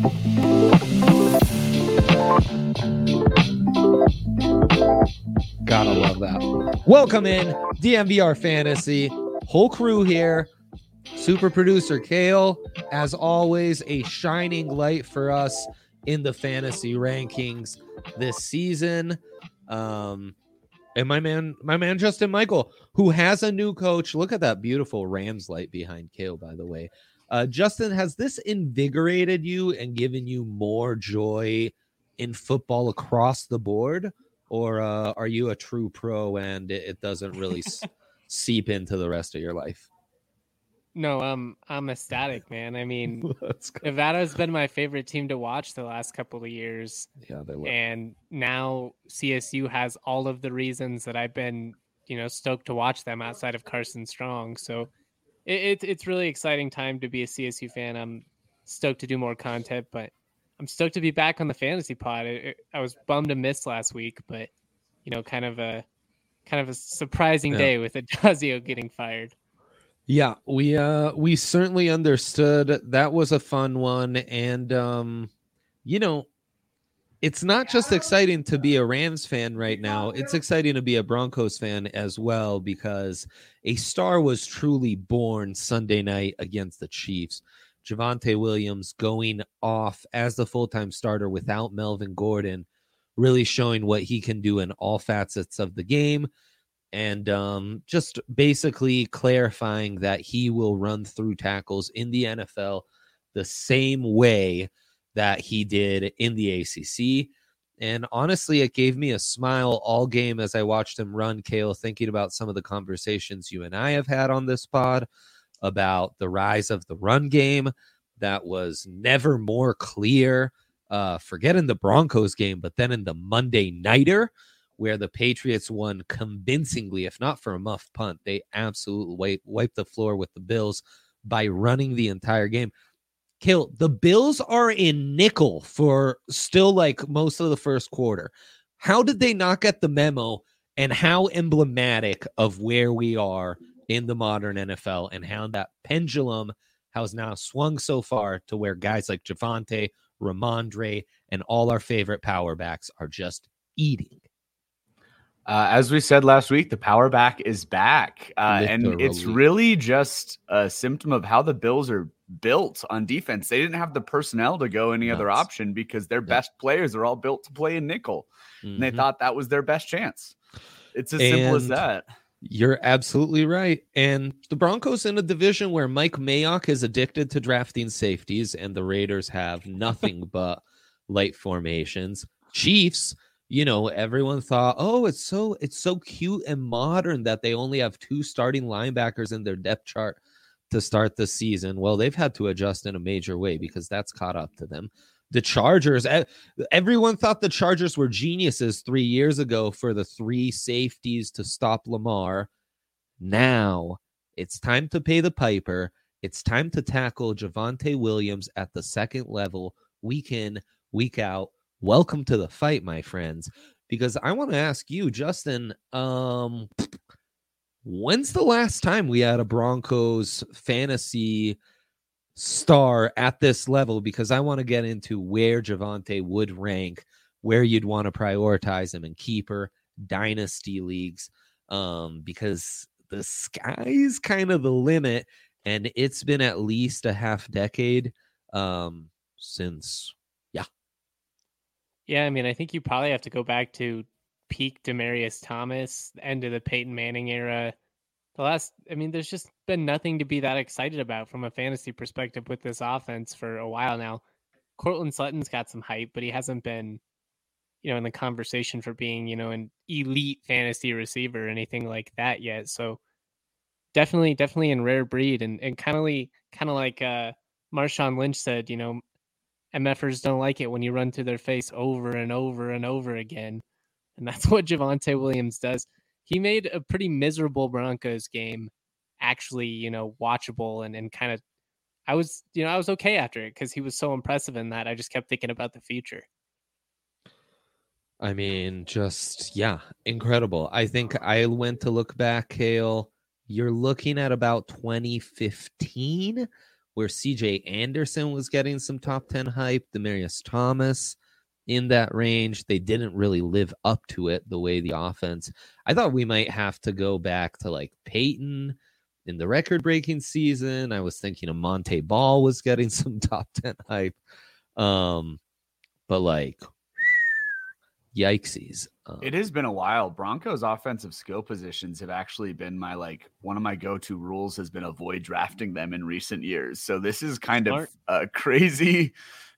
Gotta love that. Welcome in DNVR Fantasy. Whole crew here. Super producer Kale, as always, a shining light for us in the fantasy rankings this season. And my man Justin Michael, who has a new coach. Look at that beautiful Rams light behind Kale, by the way. Justin, has this invigorated you and given you more joy in football across the board? Or are you a true pro and it doesn't really seep into the rest of your life? No, I'm ecstatic, man. I mean, Nevada's been my favorite team to watch the last couple of years. Yeah, they were. And now CSU has all of the reasons that I've been, stoked to watch them outside of Carson Strong. So it's really exciting time to be a CSU fan. I'm stoked to do more content, but I'm stoked to be back on the fantasy pod. I was bummed to miss last week, but kind of a surprising day with Adazio getting fired. Yeah, we certainly understood. That was a fun one. And, it's not just exciting to be a Rams fan right now. It's exciting to be a Broncos fan as well, because a star was truly born Sunday night against the Chiefs. Javonte Williams going off as the full-time starter without Melvin Gordon, really showing what he can do in all facets of the game. And just basically clarifying that he will run through tackles in the NFL the same way that he did in the ACC. And honestly, it gave me a smile all game as I watched him run, Kale, thinking about some of the conversations you and I have had on this pod about the rise of the run game that was never more clear. Forget in the Broncos game, but then in the Monday Nighter, where the Patriots won convincingly, if not for a muff punt. They absolutely wiped the floor with the Bills by running the entire game. Kale, the Bills are in nickel for still like most of the first quarter. How did they not get the memo, and how emblematic of where we are in the modern NFL and how that pendulum has now swung so far to where guys like Javonte, Ramondre, and all our favorite power backs are just eating? As we said last week, the power back is back. And it's really just a symptom of how the Bills are built on defense. They didn't have the personnel to go any other option because their best players are all built to play in nickel. And they thought that was their best chance. It's as simple as that. You're absolutely right. And the Broncos in a division where Mike Mayock is addicted to drafting safeties and the Raiders have nothing but light formations. Chiefs, everyone thought, oh, it's so cute and modern that they only have 2 starting linebackers in their depth chart to start the season. Well, they've had to adjust in a major way because that's caught up to them. The Chargers, everyone thought the Chargers were geniuses 3 years ago for the 3 safeties to stop Lamar. Now it's time to pay the piper. It's time to tackle Javonte Williams at the second level, week in, week out. Welcome to the fight, my friends, because I want to ask you, Justin, when's the last time we had a Broncos fantasy star at this level? Because I want to get into where Javonte would rank, where you'd want to prioritize him in keeper, dynasty leagues, because the sky's kind of the limit, and it's been at least a half decade since. Yeah, I mean, I think you probably have to go back to peak Demaryius Thomas, the end of the Peyton Manning era. There's just been nothing to be that excited about from a fantasy perspective with this offense for a while now. Cortland Sutton's got some hype, but he hasn't been, in the conversation for being, an elite fantasy receiver or anything like that yet. So definitely in rare breed, and kind of like Marshawn Lynch said, MFers don't like it when you run through their face over and over and over again. And that's what Javonte Williams does. He made a pretty miserable Broncos game actually, watchable and kind of, I was okay after it because he was so impressive in that. I just kept thinking about the future. I mean, incredible. I think I went to look back, Kale. You're looking at about 2015 where CJ Anderson was getting some top 10 hype, Demaryius Thomas in that range. They didn't really live up to it the way the offense. I thought we might have to go back to like Peyton in the record-breaking season. I was thinking of Monte Ball was getting some top 10 hype. But like, yikesies. It has been a while. Broncos offensive skill positions have actually been one of my go-to rules has been avoid drafting them in recent years. So this is kind of a crazy,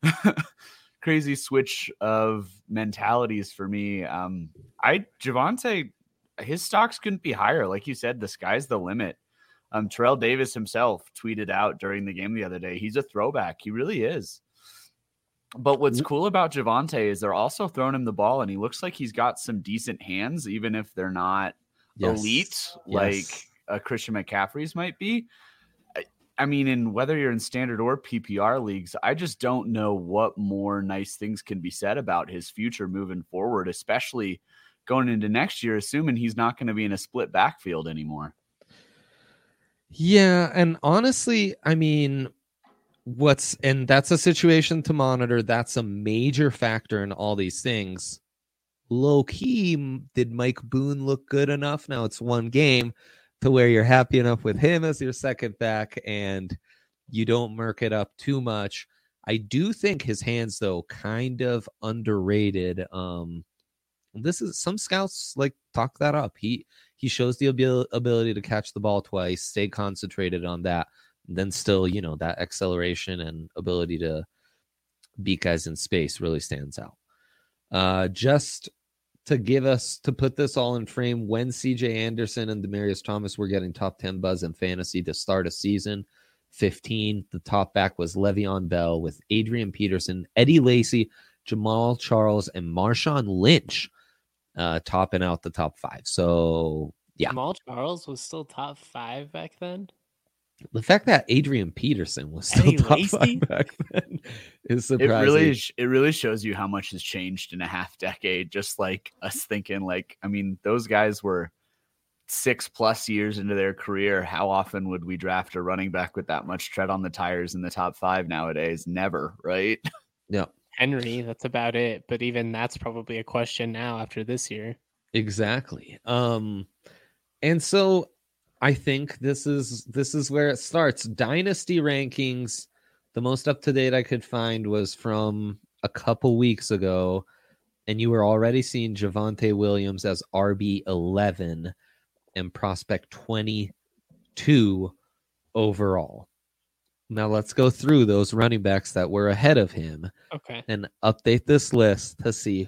crazy switch of mentalities for me. Javonte, his stocks couldn't be higher. Like you said, the sky's the limit. Terrell Davis himself tweeted out during the game the other day, he's a throwback. He really is. But what's cool about Javonte is they're also throwing him the ball, and he looks like he's got some decent hands, even if they're not elite like Christian McCaffrey's might be. I mean, whether you're in standard or PPR leagues, I just don't know what more nice things can be said about his future moving forward, especially going into next year, assuming he's not going to be in a split backfield anymore. Yeah, and honestly, I mean, that's a situation to monitor. That's a major factor in all these things. Low key, did Mike Boone look good enough? Now it's one game to where you're happy enough with him as your second back and you don't murk it up too much. I do think his hands, though, kind of underrated. This is some scouts like talk that up. He shows the ability to catch the ball twice, stay concentrated on that. Then still, that acceleration and ability to beat guys in space really stands out. Just to put this all in frame, when CJ Anderson and Demaryius Thomas were getting top 10 buzz in fantasy to start a season, 15, the top back was Le'Veon Bell with Adrian Peterson, Eddie Lacy, Jamal Charles, and Marshawn Lynch topping out the top 5. So, yeah. Jamal Charles was still top 5 back then? The fact that Adrian Peterson was still top 5 back then is surprising. It really shows you how much has changed in a half decade. Just like us thinking, those guys were 6+ years into their career. How often would we draft a running back with that much tread on the tires in the top 5 nowadays? Never, right? Yeah. Henry, that's about it. But even that's probably a question now after this year. Exactly. And so I think this is where it starts. Dynasty rankings, the most up-to-date I could find was from a couple weeks ago, and you were already seeing Javonte Williams as RB11 and prospect 22 overall. Now let's go through those running backs that were ahead of him and update this list to see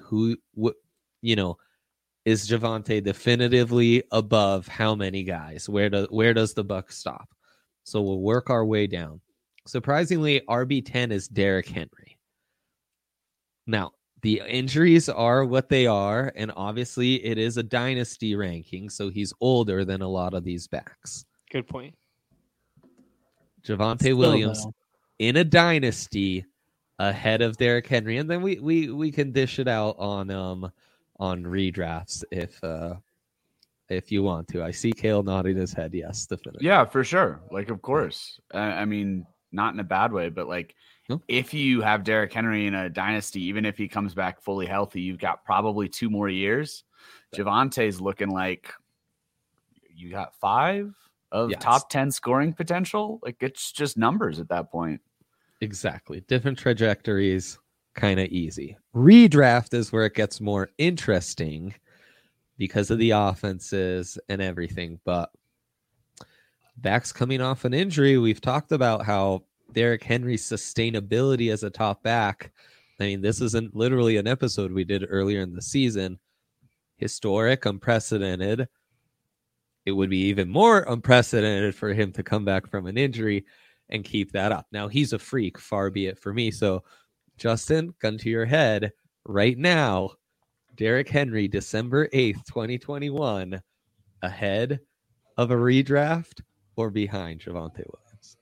is Javonte definitively above how many guys? Where does the buck stop? So we'll work our way down. Surprisingly, RB10 is Derrick Henry. Now, the injuries are what they are, and obviously it is a dynasty ranking, so he's older than a lot of these backs. Good point. Javonte Williams in a dynasty ahead of Derrick Henry, and then we can dish it out on redrafts if you want to. I see Kale nodding his head. Yes, definitely. Yeah, for sure. Of course. I mean, not in a bad way, but if you have Derrick Henry in a dynasty, even if he comes back fully healthy, you've got probably 2 more years. Javonte's looking like you got 5 of top 10 scoring potential. It's just numbers at that point. Exactly. Different trajectories. Kind of easy. Redraft is where it gets more interesting because of the offenses and everything. But backs coming off an injury, we've talked about how Derrick Henry's sustainability as a top back. I mean, this isn't literally an episode we did earlier in the season. Historic, unprecedented. It would be even more unprecedented for him to come back from an injury and keep that up. Now, he's a freak, far be it for me. So, Justin, gun to your head right now. Derrick Henry, December 8th, 2021, ahead of a redraft or behind Javonte Williams?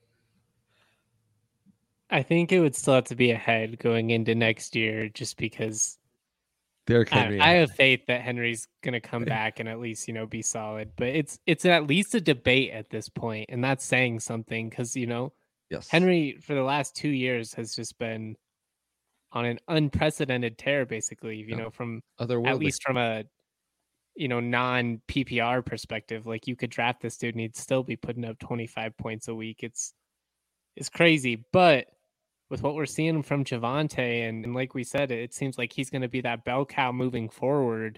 I think it would still have to be ahead going into next year just because Derrick Henry. I have faith that Henry's going to come back and at least, be solid. But it's at least a debate at this point, and that's saying something because, Yes. Henry for the last 2 years has just been on an unprecedented tear, basically, from at least from a non PPR perspective. Like, you could draft this dude and he'd still be putting up 25 points a week. It's crazy. But with what we're seeing from Javonte, and like we said, it seems like he's going to be that bell cow moving forward.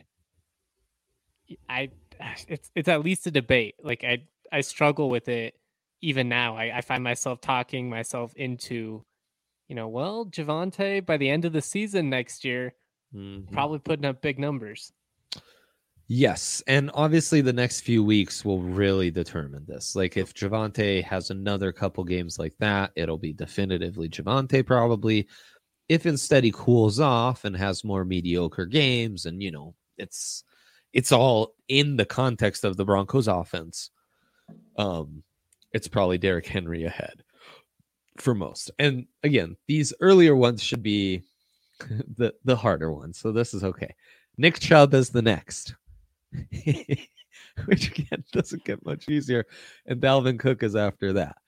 It's at least a debate. Like, I struggle with it even now. I find myself talking myself into, Javonte by the end of the season next year, probably putting up big numbers. Yes, and obviously the next few weeks will really determine this. Like, if Javonte has another couple games like that, it'll be definitively Javonte probably. If instead he cools off and has more mediocre games, and it's all in the context of the Broncos offense, it's probably Derrick Henry ahead for most. And again, these earlier ones should be the harder ones, so this is okay. Nick Chubb is the next. Which again doesn't get much easier, and Dalvin Cook is after that.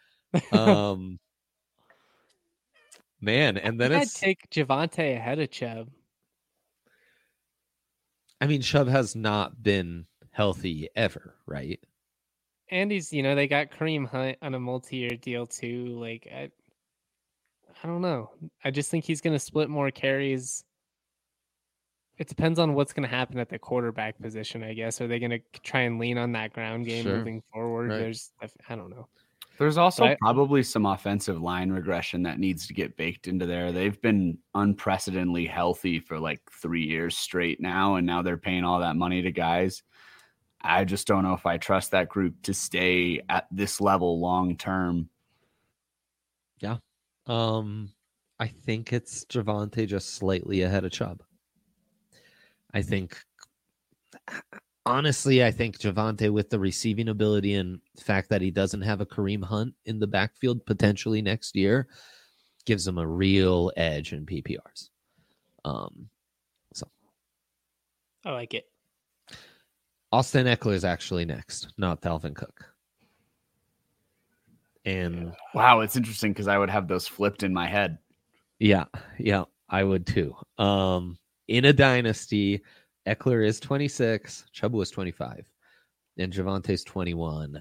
Man, and then I'd take Javonte ahead of Chubb. I mean, Chubb has not been healthy ever, right? And he's, they got Kareem Hunt on a multi-year deal too. Like, I don't know. I just think he's going to split more carries. It depends on what's going to happen at the quarterback position, I guess. Are they going to try and lean on that ground game moving forward? Right. I don't know. There's also probably some offensive line regression that needs to get baked into there. They've been unprecedentedly healthy for like 3 years straight now, and now they're paying all that money to guys. I just don't know if I trust that group to stay at this level long term. Yeah. I think it's Javonte just slightly ahead of Chubb. I think Javonte, with the receiving ability and the fact that he doesn't have a Kareem Hunt in the backfield potentially next year, gives him a real edge in PPRs. So I like it. Austin Eckler is actually next, not Dalvin Cook. And wow, it's interesting because I would have those flipped in my head. Yeah, I would too. In a dynasty, Eckler is 26, Chubb was 25, and Javonte's 21.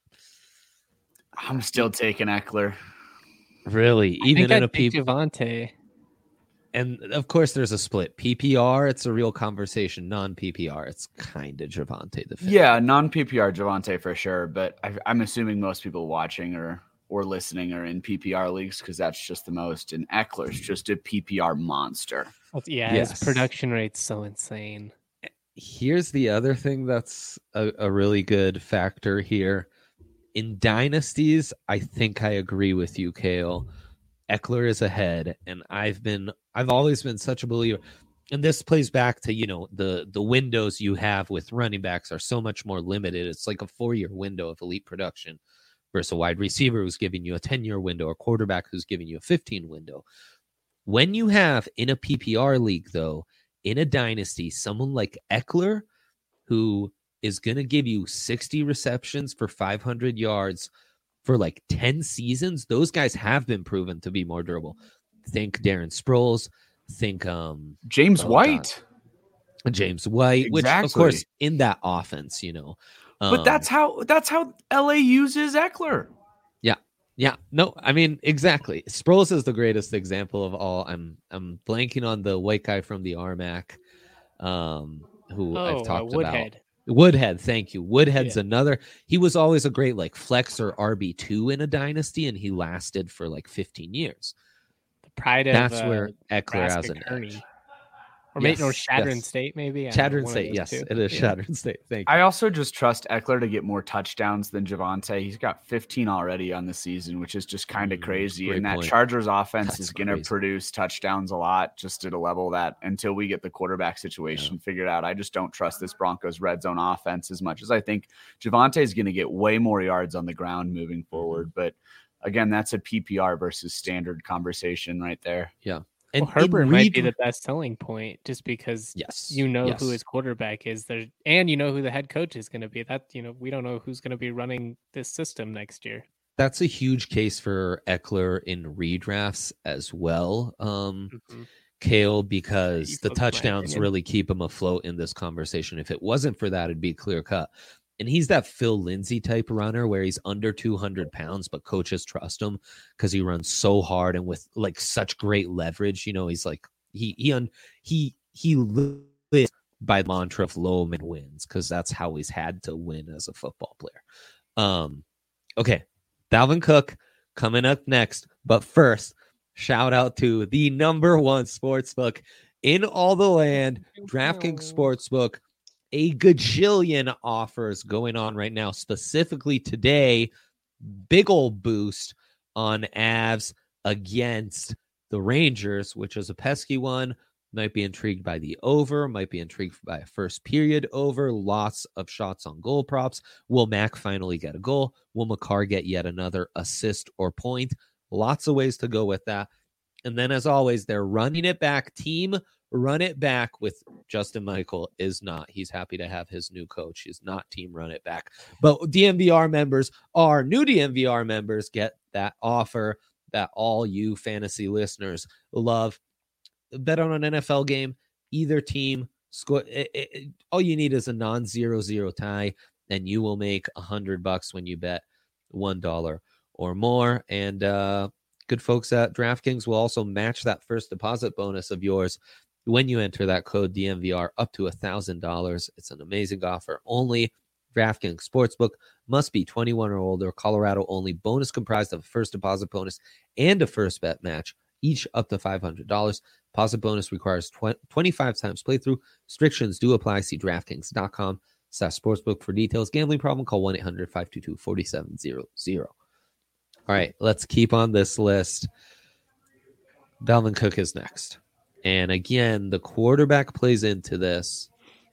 I'm still taking Eckler. Really? Even in a Javonte. And of course, there's a split. PPR, it's a real conversation. Non-PPR, it's kind of Javonte the fifth. Yeah, non-PPR Javonte for sure. But I'm assuming most people watching or listening are in PPR leagues because that's just the most. And Eckler's just a PPR monster. Yeah, his production rate's so insane. Here's the other thing that's a really good factor here. In dynasties, I think I agree with you, Kale. Eckler is ahead, and I've always been such a believer. And this plays back to, the windows you have with running backs are so much more limited. It's like a 4-year window of elite production versus a wide receiver who's giving you a 10-year window, or quarterback who's giving you a 15 window. When you have in a PPR league, though, in a dynasty, someone like Eckler, who is going to give you 60 receptions for 500 yards for like 10 seasons, those guys have been proven to be more durable. Think Darren Sproles. Think James White. James White, exactly. Which, of course, in that offense, But that's how LA uses Eckler. Yeah, no, I mean, exactly. Sproles is the greatest example of all. I'm blanking on the white guy from the RMAC, who I've talked Woodhead. about. Woodhead, thank you. Woodhead's another. He was always a great like flex or RB2 in a dynasty, and he lasted for like 15 years. The pride of that's where Eckler has an edge. Or maybe Chadron State, maybe. Chadron State, yes, it is Chadron State. Thank you. I also just trust Eckler to get more touchdowns than Javonte. He's got 15 already on the season, which is just kind of crazy. And that Chargers offense is going to produce touchdowns a lot, just at a level that until we get the quarterback situation figured out, I just don't trust this Broncos red zone offense as much as I think Javonte is going to get way more yards on the ground moving forward. But again, that's a PPR versus standard conversation right there. Yeah. And Herbert might be the best selling point just because who his quarterback is there, and who the head coach is going to be. That we don't know who's going to be running this system next year. That's a huge case for Eckler in redrafts as well, Kale, because the touchdowns really keep him afloat in this conversation. If it wasn't for that, it'd be clear cut. And he's that Phil Lindsay type runner where he's under 200 pounds, but coaches trust him because he runs so hard and with like such great leverage. You know, he's like he lives by the mantra of low man wins because that's how he's had to win as a football player. Okay. Dalvin Cook coming up next. But first, shout out to the number one sportsbook in all the land, DraftKings Sportsbook. A gajillion offers going on right now. Specifically today, big old boost on Avs against the Rangers, which is a pesky one. Might be intrigued by the over, might be intrigued by a first period over, lots of shots on goal props. Will Mac finally get a goal? Will Makar get yet another assist or point? Lots of ways to go with that. And then, as always, they're running it back. Team run it back with Justin Michael is not. He's happy to have his new coach. He's not team run it back. But DMVR members are new DMVR members get that offer that all you fantasy listeners love. Bet on an NFL game, either team score. All you need is a non-0-0 tie, and you will make $100 when you bet $1 or more. And good folks at DraftKings will also match that first deposit bonus of yours when you enter that code DMVR up to $1,000. It's an amazing offer. Only DraftKings Sportsbook, must be 21 or older. Colorado only. Bonus comprised of a first deposit bonus and a first bet match, each up to $500. Deposit bonus requires 25 times playthrough. Restrictions do apply. See DraftKings.com/sportsbook for details. Gambling problem? Call 1-800-522-4700. All right, let's keep on this list. Dalvin Cook is next. And again, the quarterback plays into this,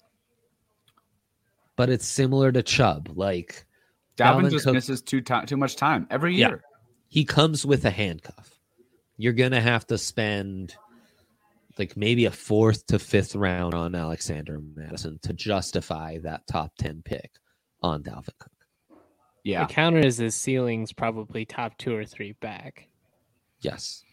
but it's similar to Chubb. Like Dalvin just misses too much time every year. Yeah, he comes with a handcuff. You're going to have to spend like maybe a 4th to 5th round on Alexander Madison to justify that top 10 pick on Dalvin Cook. Yeah. The counter is his ceiling's probably top 2 or 3 back. Yes.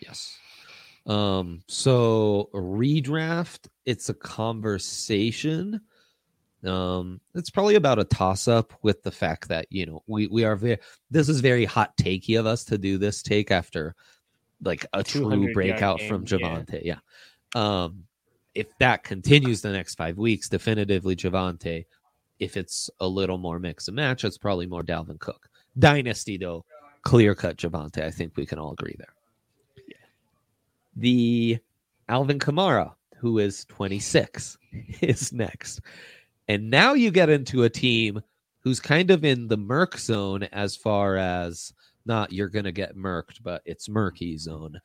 So redraft, it's a conversation. It's probably about a toss-up with the fact that, you know, we are this is very hot takey of us to do this take after like a true breakout from Javonte. Yeah. If that continues the next 5 weeks, definitively Javonte. If it's a little more mix and match, it's probably more Dalvin Cook. Dynasty, though, clear-cut Javonte. I think we can all agree there. Yeah. The Alvin Kamara, who is 26, is next. And now you get into a team who's kind of in the murk zone as far as not you're going to get murked, but it's murky zone.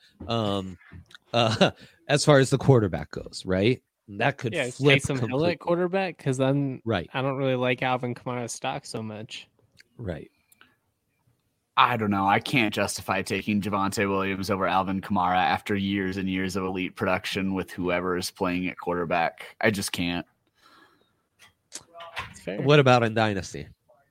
As far as the quarterback goes, right? That could flip Taysom Hill at quarterback because then right. I don't really like Alvin Kamara's stock so much. Right. I don't know. I can't justify taking Javonte Williams over Alvin Kamara after years and years of elite production with whoever is playing at quarterback. I just can't. What about in Dynasty?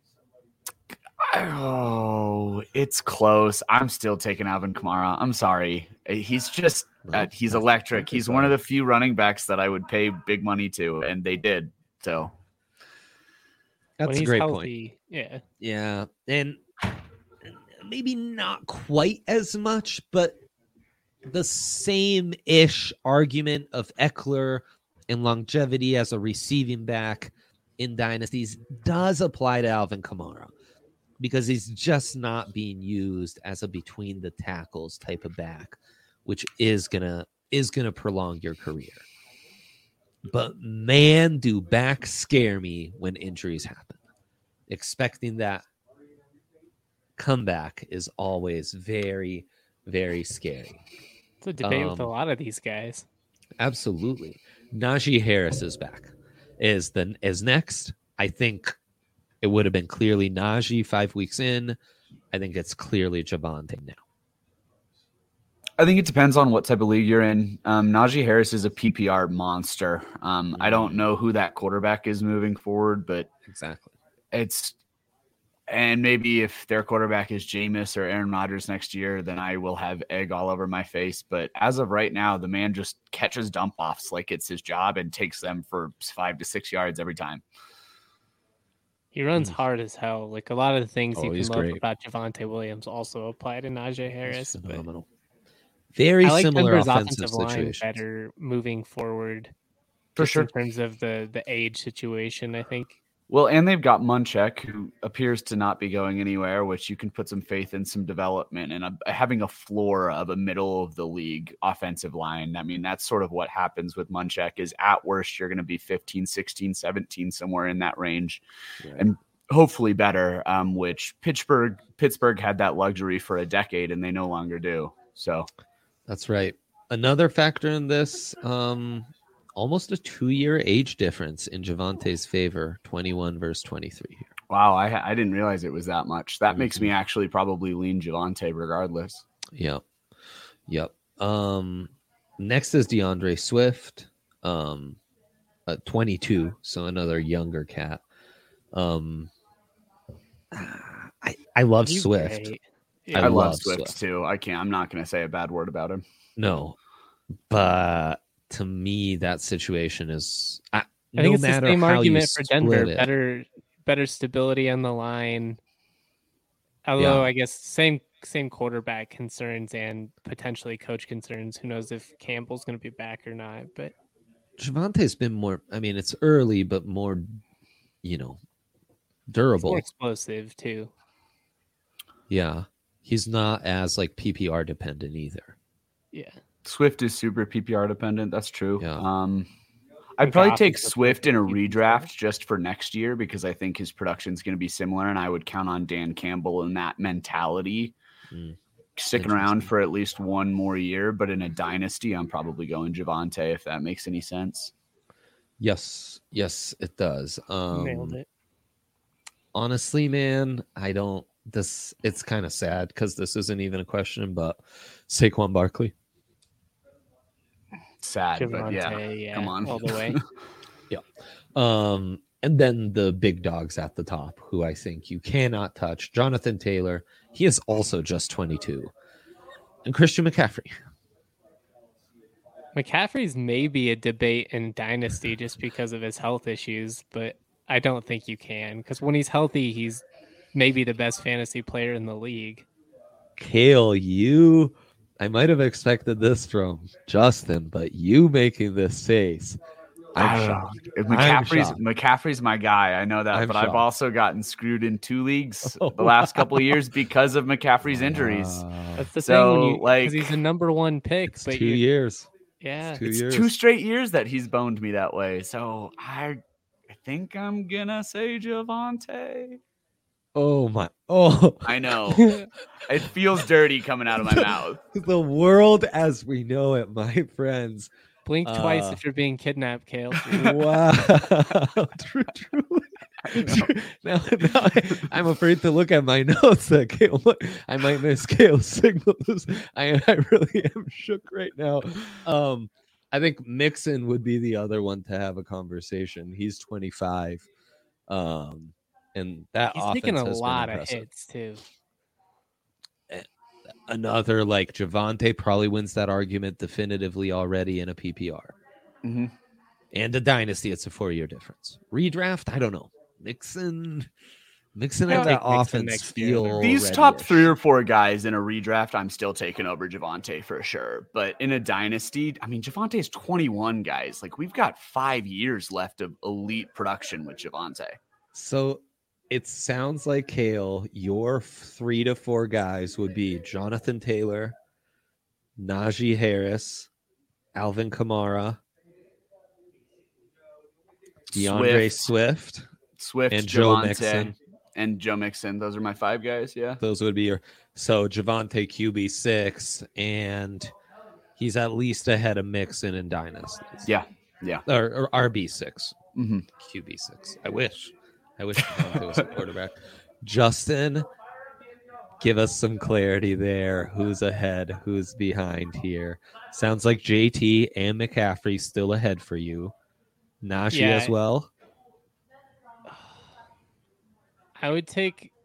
Oh, it's close. I'm still taking Alvin Kamara. I'm sorry. He's just he's electric. He's one of the few running backs that I would pay big money to, and they did. So that's a great point. Yeah. Yeah. And maybe not quite as much, but the same-ish argument of Eckler and longevity as a receiving back in dynasties does apply to Alvin Kamara, because he's just not being used as a between the tackles type of back, which is gonna prolong your career. But man, do backs scare me when injuries happen. Expecting that comeback is always very, very scary. It's a debate with a lot of these guys. Absolutely. Najee Harris is back. Is next. I think it would have been clearly Najee 5 weeks in. I think it's clearly Javonte now. I think it depends on what type of league you're in. Najee Harris is a PPR monster. I don't know who that quarterback is moving forward, but exactly, And maybe if their quarterback is Jameis or Aaron Rodgers next year, then I will have egg all over my face. But as of right now, the man just catches dump offs like it's his job and takes them for 5 to 6 yards every time. He runs hard as hell. Like a lot of the things you can love great. about Javonte Williams also apply to Najee Harris. He's phenomenal. Very I like similar Denver's offensive line situations. better moving forward. For just sure. In terms of the age situation, I think. Well, and they've got Munchak, who appears to not be going anywhere, which you can put some faith in some development and having a floor of a middle of the league offensive line. I mean, that's sort of what happens with Munchak is at worst, you're going to be 15, 16, 17, somewhere in that range. Right. And hopefully better, which Pittsburgh had that luxury for a decade and they no longer do. So that's right. Another factor in this, almost a 2-year age difference in Javonte's favor, 21 versus 23 here. Wow, I didn't realize it was that much. That makes me actually probably lean Javonte regardless. Yep. Next is DeAndre Swift, 22, so another younger cat. I love Swift. Yeah. I love Swift too. I'm not going to say a bad word about him. No, but to me, that situation is. I think it's the same argument for Denver. Better stability on the line. Although I guess same quarterback concerns and potentially coach concerns. Who knows if Campbell's going to be back or not? But Javonte's been more. I mean, it's early, but more, durable, more explosive too. Yeah, he's not as like PPR dependent either. Yeah. Swift is super PPR dependent. That's true. Yeah. I'd probably take Swift in a redraft just for next year because I think his production is going to be similar, and I would count on Dan Campbell and that mentality sticking around for at least one more year. But in a dynasty, I'm probably going Javonte if that makes any sense. Yes, it does. Nailed it. Honestly, man, it's kind of sad because this isn't even a question, but Saquon Barkley. Sad, Javonte, but yeah, come on, all the way. Yeah. And then the big dogs at the top, who I think you cannot touch. Jonathan Taylor, he is also just 22, and Christian McCaffrey. McCaffrey's maybe a debate in Dynasty just because of his health issues, but I don't think you can because when he's healthy, he's maybe the best fantasy player in the league. Kale, I might have expected this from Justin, but you making this face, I'm shocked. McCaffrey's my guy. I know that, but I've also gotten screwed in 2 leagues the last couple of years because of McCaffrey's injuries. That's the thing, because he's the number 1 pick. But 2 years. Yeah, it's 2 straight years that he's boned me that way. So I think I'm gonna say Javonte. Oh my! Oh, I know. It feels dirty coming out of my mouth. The world as we know it, my friends. Blink twice if you're being kidnapped, Kale. Wow. True. Now I'm afraid to look at my notes. That Kale, I might miss Kale's signals. I really am shook right now. I think Mixon would be the other one to have a conversation. He's 25. And that he's offense taking a has lot been of hits too. Another like Javonte probably wins that argument definitively already in a PPR. Mm-hmm. And a dynasty, it's a 4-year difference. Redraft, I don't know. Mixon and that offense feel these ready-ish. Top 3 or 4 guys in a redraft, I'm still taking over Javonte for sure. But in a dynasty, I mean, Javonte is 21, guys. Like we've got 5 years left of elite production with Javonte. So it sounds like, Kale, your 3 to 4 guys would be Jonathan Taylor, Najee Harris, Alvin Kamara, DeAndre Swift, and Joe Mixon. And Joe Mixon. Those are my 5 guys, yeah. Those would be your... So Javonte QB 6, and he's at least ahead of Mixon in dynasties. Yeah. Or RB 6. Mm-hmm. QB 6. I wish Javonte was a quarterback. Justin, give us some clarity there. Who's ahead? Who's behind here? Sounds like JT and McCaffrey still ahead for you. Najee as well. I would take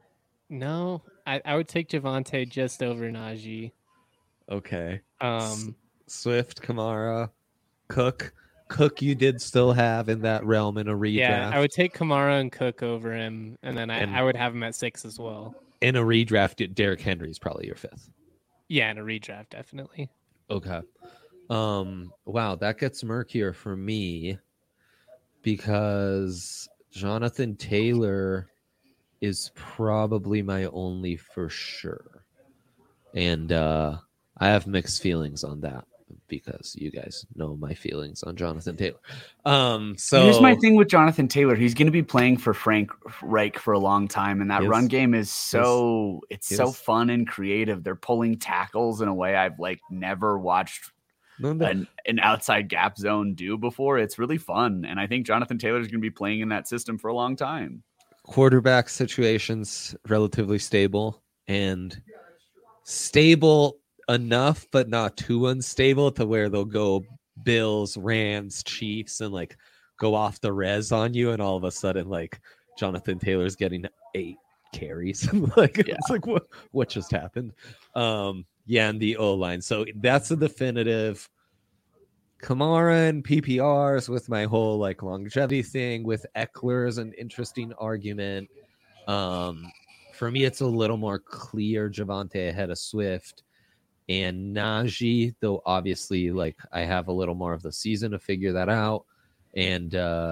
No, I would take Javonte just over Najee. Okay. Um, Swift, Kamara, Cook. Cook you did still have in that realm in a redraft. Yeah, I would take Kamara and Cook over him, and then And- I would have him at 6 as well. In a redraft, Derrick Henry is probably your 5th. Yeah, in a redraft, definitely. Okay. Wow, that gets murkier for me because Jonathan Taylor is probably my only for sure. And I have mixed feelings on that because you guys know my feelings on Jonathan Taylor. So here's my thing with Jonathan Taylor. He's going to be playing for Frank Reich for a long time, and that run game is so fun and creative. They're pulling tackles in a way I've never watched an outside gap zone do before. It's really fun, and I think Jonathan Taylor is going to be playing in that system for a long time. Quarterback situations relatively stable and stable enough, but not too unstable to where they'll go Bills, Rams, Chiefs, and go off the res on you, and all of a sudden Jonathan Taylor's getting 8 carries. It's what just happened? And the O-line. So that's a definitive. Kamara and PPRs with my whole longevity thing with Eckler is an interesting argument. For me, it's a little more clear Javonte ahead of Swift and Najee, though obviously I have a little more of the season to figure that out. And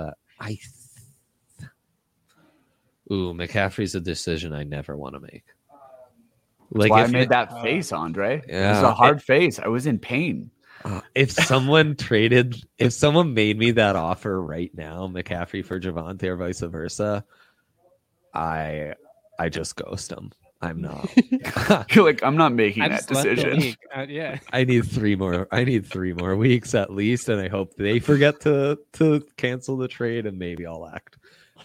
McCaffrey's a decision I never want to make. That's why I made that face, Andre. Yeah, it was a hard face. I was in pain. If someone made me that offer right now, McCaffrey for Javonte or vice versa, I just ghost them. I'm not. You're I'm not making that decision. Yeah. I need 3 more. I need 3 more weeks at least, and I hope they forget to cancel the trade, and maybe I'll act.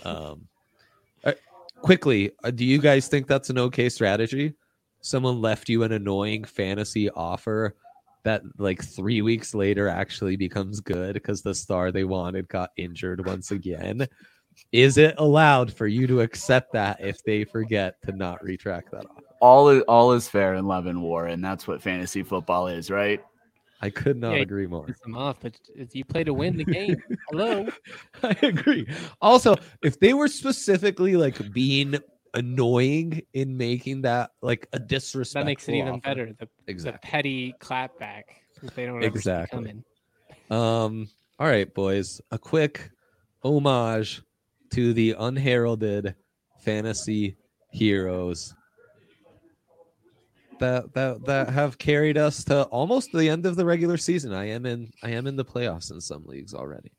Quickly, do you guys think that's an okay strategy? Someone left you an annoying fantasy offer that 3 weeks later actually becomes good because the star they wanted got injured once again. Is it allowed for you to accept that if they forget to not retract that offer? All is fair in love and war, and that's what fantasy football is, right? I could not agree more. Them off, but you play to win the game. Hello. I agree. Also, if they were specifically being annoying in making that a disrespectful, that makes it even offer. Better. The petty clapback that they don't exactly ever see coming. All right, boys. A quick homage to the unheralded fantasy heroes that have carried us to almost the end of the regular season. I am in the playoffs in some leagues already.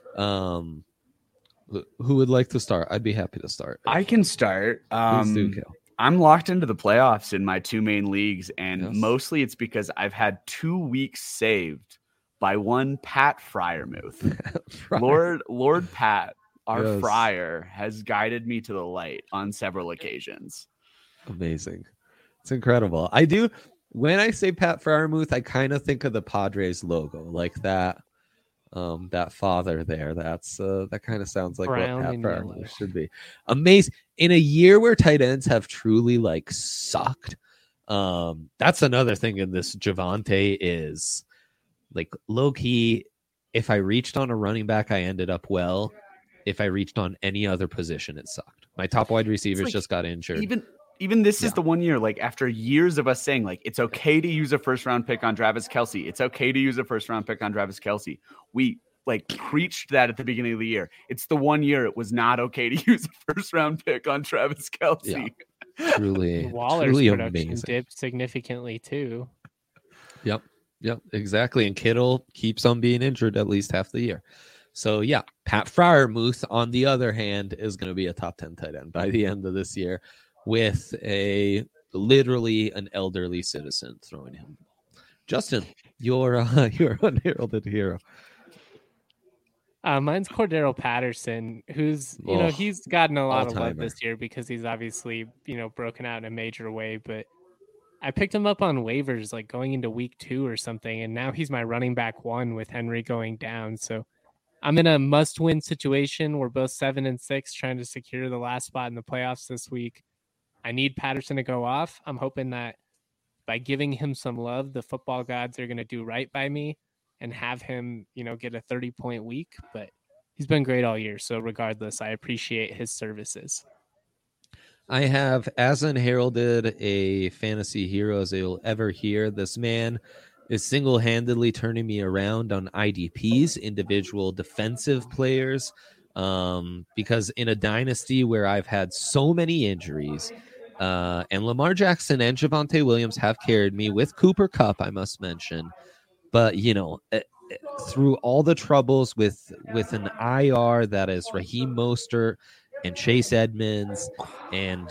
Who would like to start? I'd be happy to start. I can start. Please do, Kel. I'm locked into the playoffs in my 2 main leagues, and mostly it's because I've had 2 weeks saved by one Pat Freiermuth. Lord Pat, our Friar, has guided me to the light on several occasions. Amazing. It's incredible. When I say Pat Freiermuth, I kind of think of the Padres logo, like that. That father there. That kind of sounds like Brown what Pat Freiermuth should be. Amazing. In a year where tight ends have truly sucked. That's another thing in this. Javonte is low key. If I reached on a running back, I ended up well. If I reached on any other position, it sucked. My top wide receivers just got injured. Even this is the one year, after years of us saying, it's okay to use a first-round pick on Travis Kelce. It's okay to use a first-round pick on Travis Kelce. We, preached that at the beginning of the year. It's the one year it was not okay to use a first-round pick on Travis Kelce. Yeah. Truly, Waller's truly production amazing. dipped significantly, too. Yep, exactly. And Kittle keeps on being injured at least half the year. So, yeah, Pat Freiermuth, on the other hand, is going to be a top 10 tight end by the end of this year, with literally an elderly citizen throwing him. Justin, you're unheralded hero. Mine's Cordero Patterson, who's he's gotten a lot of love this year because he's obviously broken out in a major way. But I picked him up on waivers going into week 2 or something, and now he's my running back 1 with Henry going down. So I'm in a must-win situation. We're both 7-6, trying to secure the last spot in the playoffs this week. I need Patterson to go off. I'm hoping that by giving him some love, the football gods are going to do right by me and have him, get a 30-point week. But he's been great all year. So regardless, I appreciate his services. I have as unheralded a fantasy hero as you'll ever hear. This man is single-handedly turning me around on IDPs, individual defensive players, because in a dynasty where I've had so many injuries, and Lamar Jackson and Javonte Williams have carried me with Cooper Kupp, I must mention. But, through all the troubles with an IR that is Raheem Mostert and Chase Edmonds and,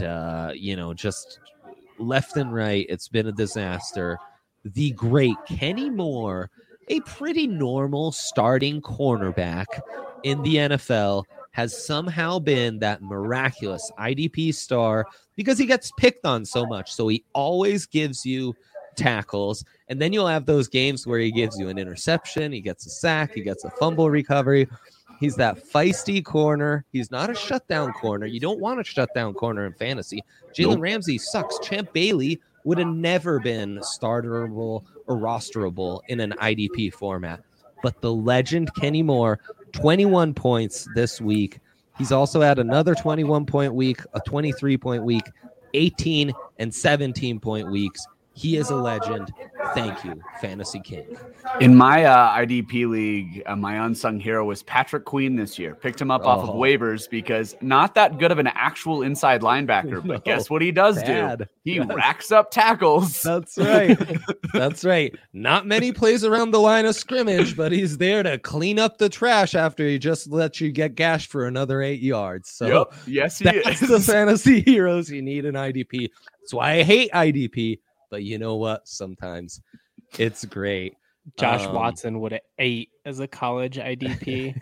just left and right, it's been a disaster. The great Kenny Moore, a pretty normal starting cornerback in the NFL, has somehow been that miraculous IDP star because he gets picked on so much. So he always gives you tackles, and then you'll have those games where he gives you an interception, he gets a sack, he gets a fumble recovery. He's that feisty corner. He's not a shutdown corner. You don't want a shutdown corner in fantasy. Jalen Ramsey sucks. Champ Bailey would have never been starterable or rosterable in an IDP format. But the legend Kenny Moore, 21 points this week. He's also had another 21-point week, a 23-point week, 18 and 17-point weeks. He is a legend. Thank you, Fantasy King. In my IDP league, my unsung hero was Patrick Queen this year. Picked him up off of waivers because not that good of an actual inside linebacker, but guess what he does do? He racks up tackles. That's right. That's right. Not many plays around the line of scrimmage, but he's there to clean up the trash after he just lets you get gashed for another 8 yards. So yes, he that's is. the fantasy heroes you need in IDP. That's why I hate IDP. But you know what? Sometimes it's great. Josh Watson would have 8 as a college IDP.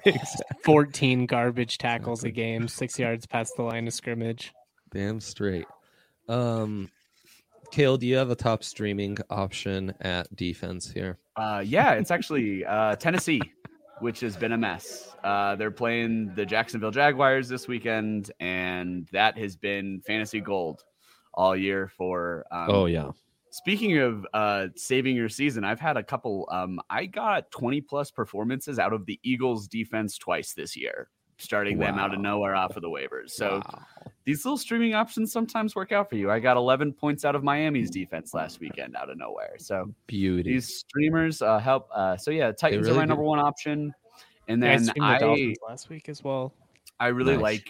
14 garbage tackles a game, 6 yards past the line of scrimmage. Damn straight. Kale, do you have a top streaming option at defense here? Yeah, it's actually Tennessee, which has been a mess. They're playing the Jacksonville Jaguars this weekend, and that has been fantasy gold all year for Speaking of saving your season, I've had a couple. I got 20-plus performances out of the Eagles' defense twice this year, starting them out of nowhere off of the waivers. So these little streaming options sometimes work out for you. I got 11 points out of Miami's defense last weekend out of nowhere. So beauty. These streamers help. Titans really are my number one option. And then I last week as well. I really like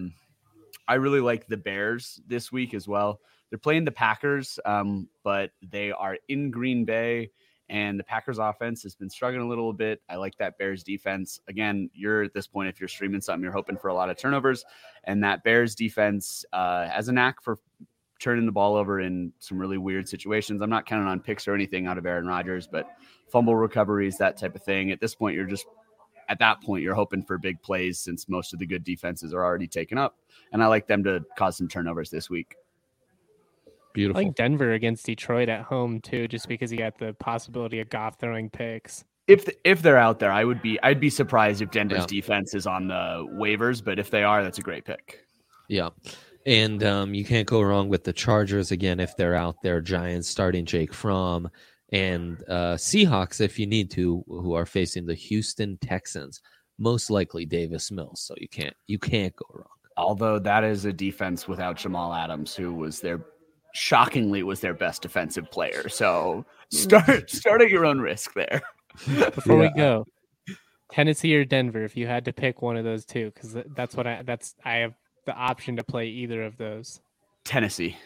the Bears this week as well. They're playing the Packers, but they are in Green Bay, and the Packers offense has been struggling a little bit. I like that Bears defense. Again, you're at this point, if you're streaming something, you're hoping for a lot of turnovers, and that Bears defense has a knack for turning the ball over in some really weird situations. I'm not counting on picks or anything out of Aaron Rodgers, but fumble recoveries, that type of thing. At this point, you're hoping for big plays since most of the good defenses are already taken up, and I like them to cause some turnovers this week. Beautiful. I like Denver against Detroit at home too, just because you got the possibility of Goff throwing picks. If they're out there, I'd be surprised if Denver's defense is on the waivers, but if they are, that's a great pick. Yeah. And you can't go wrong with the Chargers again if they're out there. Giants starting Jake Fromm, and Seahawks if you need to, who are facing the Houston Texans, most likely Davis Mills. So you can't go wrong. Although that is a defense without Jamal Adams, who was shockingly was their best defensive player. So start at your own risk there. Before we go, Tennessee or Denver, if you had to pick one of those two, because I have the option to play either of those. Tennessee.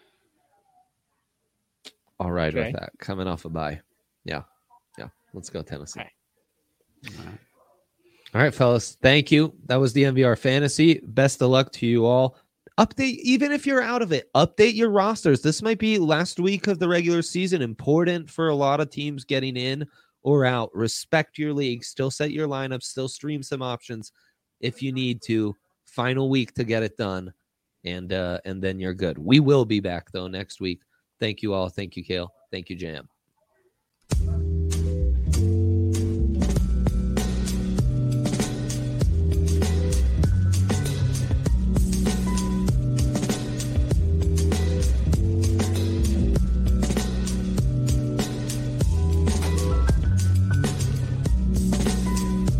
All right, with that. Coming off a bye. Yeah. Let's go Tennessee. All right, fellas. Thank you. That was the MVR Fantasy. Best of luck to you all. Update, even if you're out of it, update your rosters. This might be last week of the regular season, important for a lot of teams getting in or out. Respect your league. Still set your lineup. Still stream some options if you need to. Final week to get it done, and then you're good. We will be back, though, next week. Thank you all. Thank you, Kale. Thank you, Jam.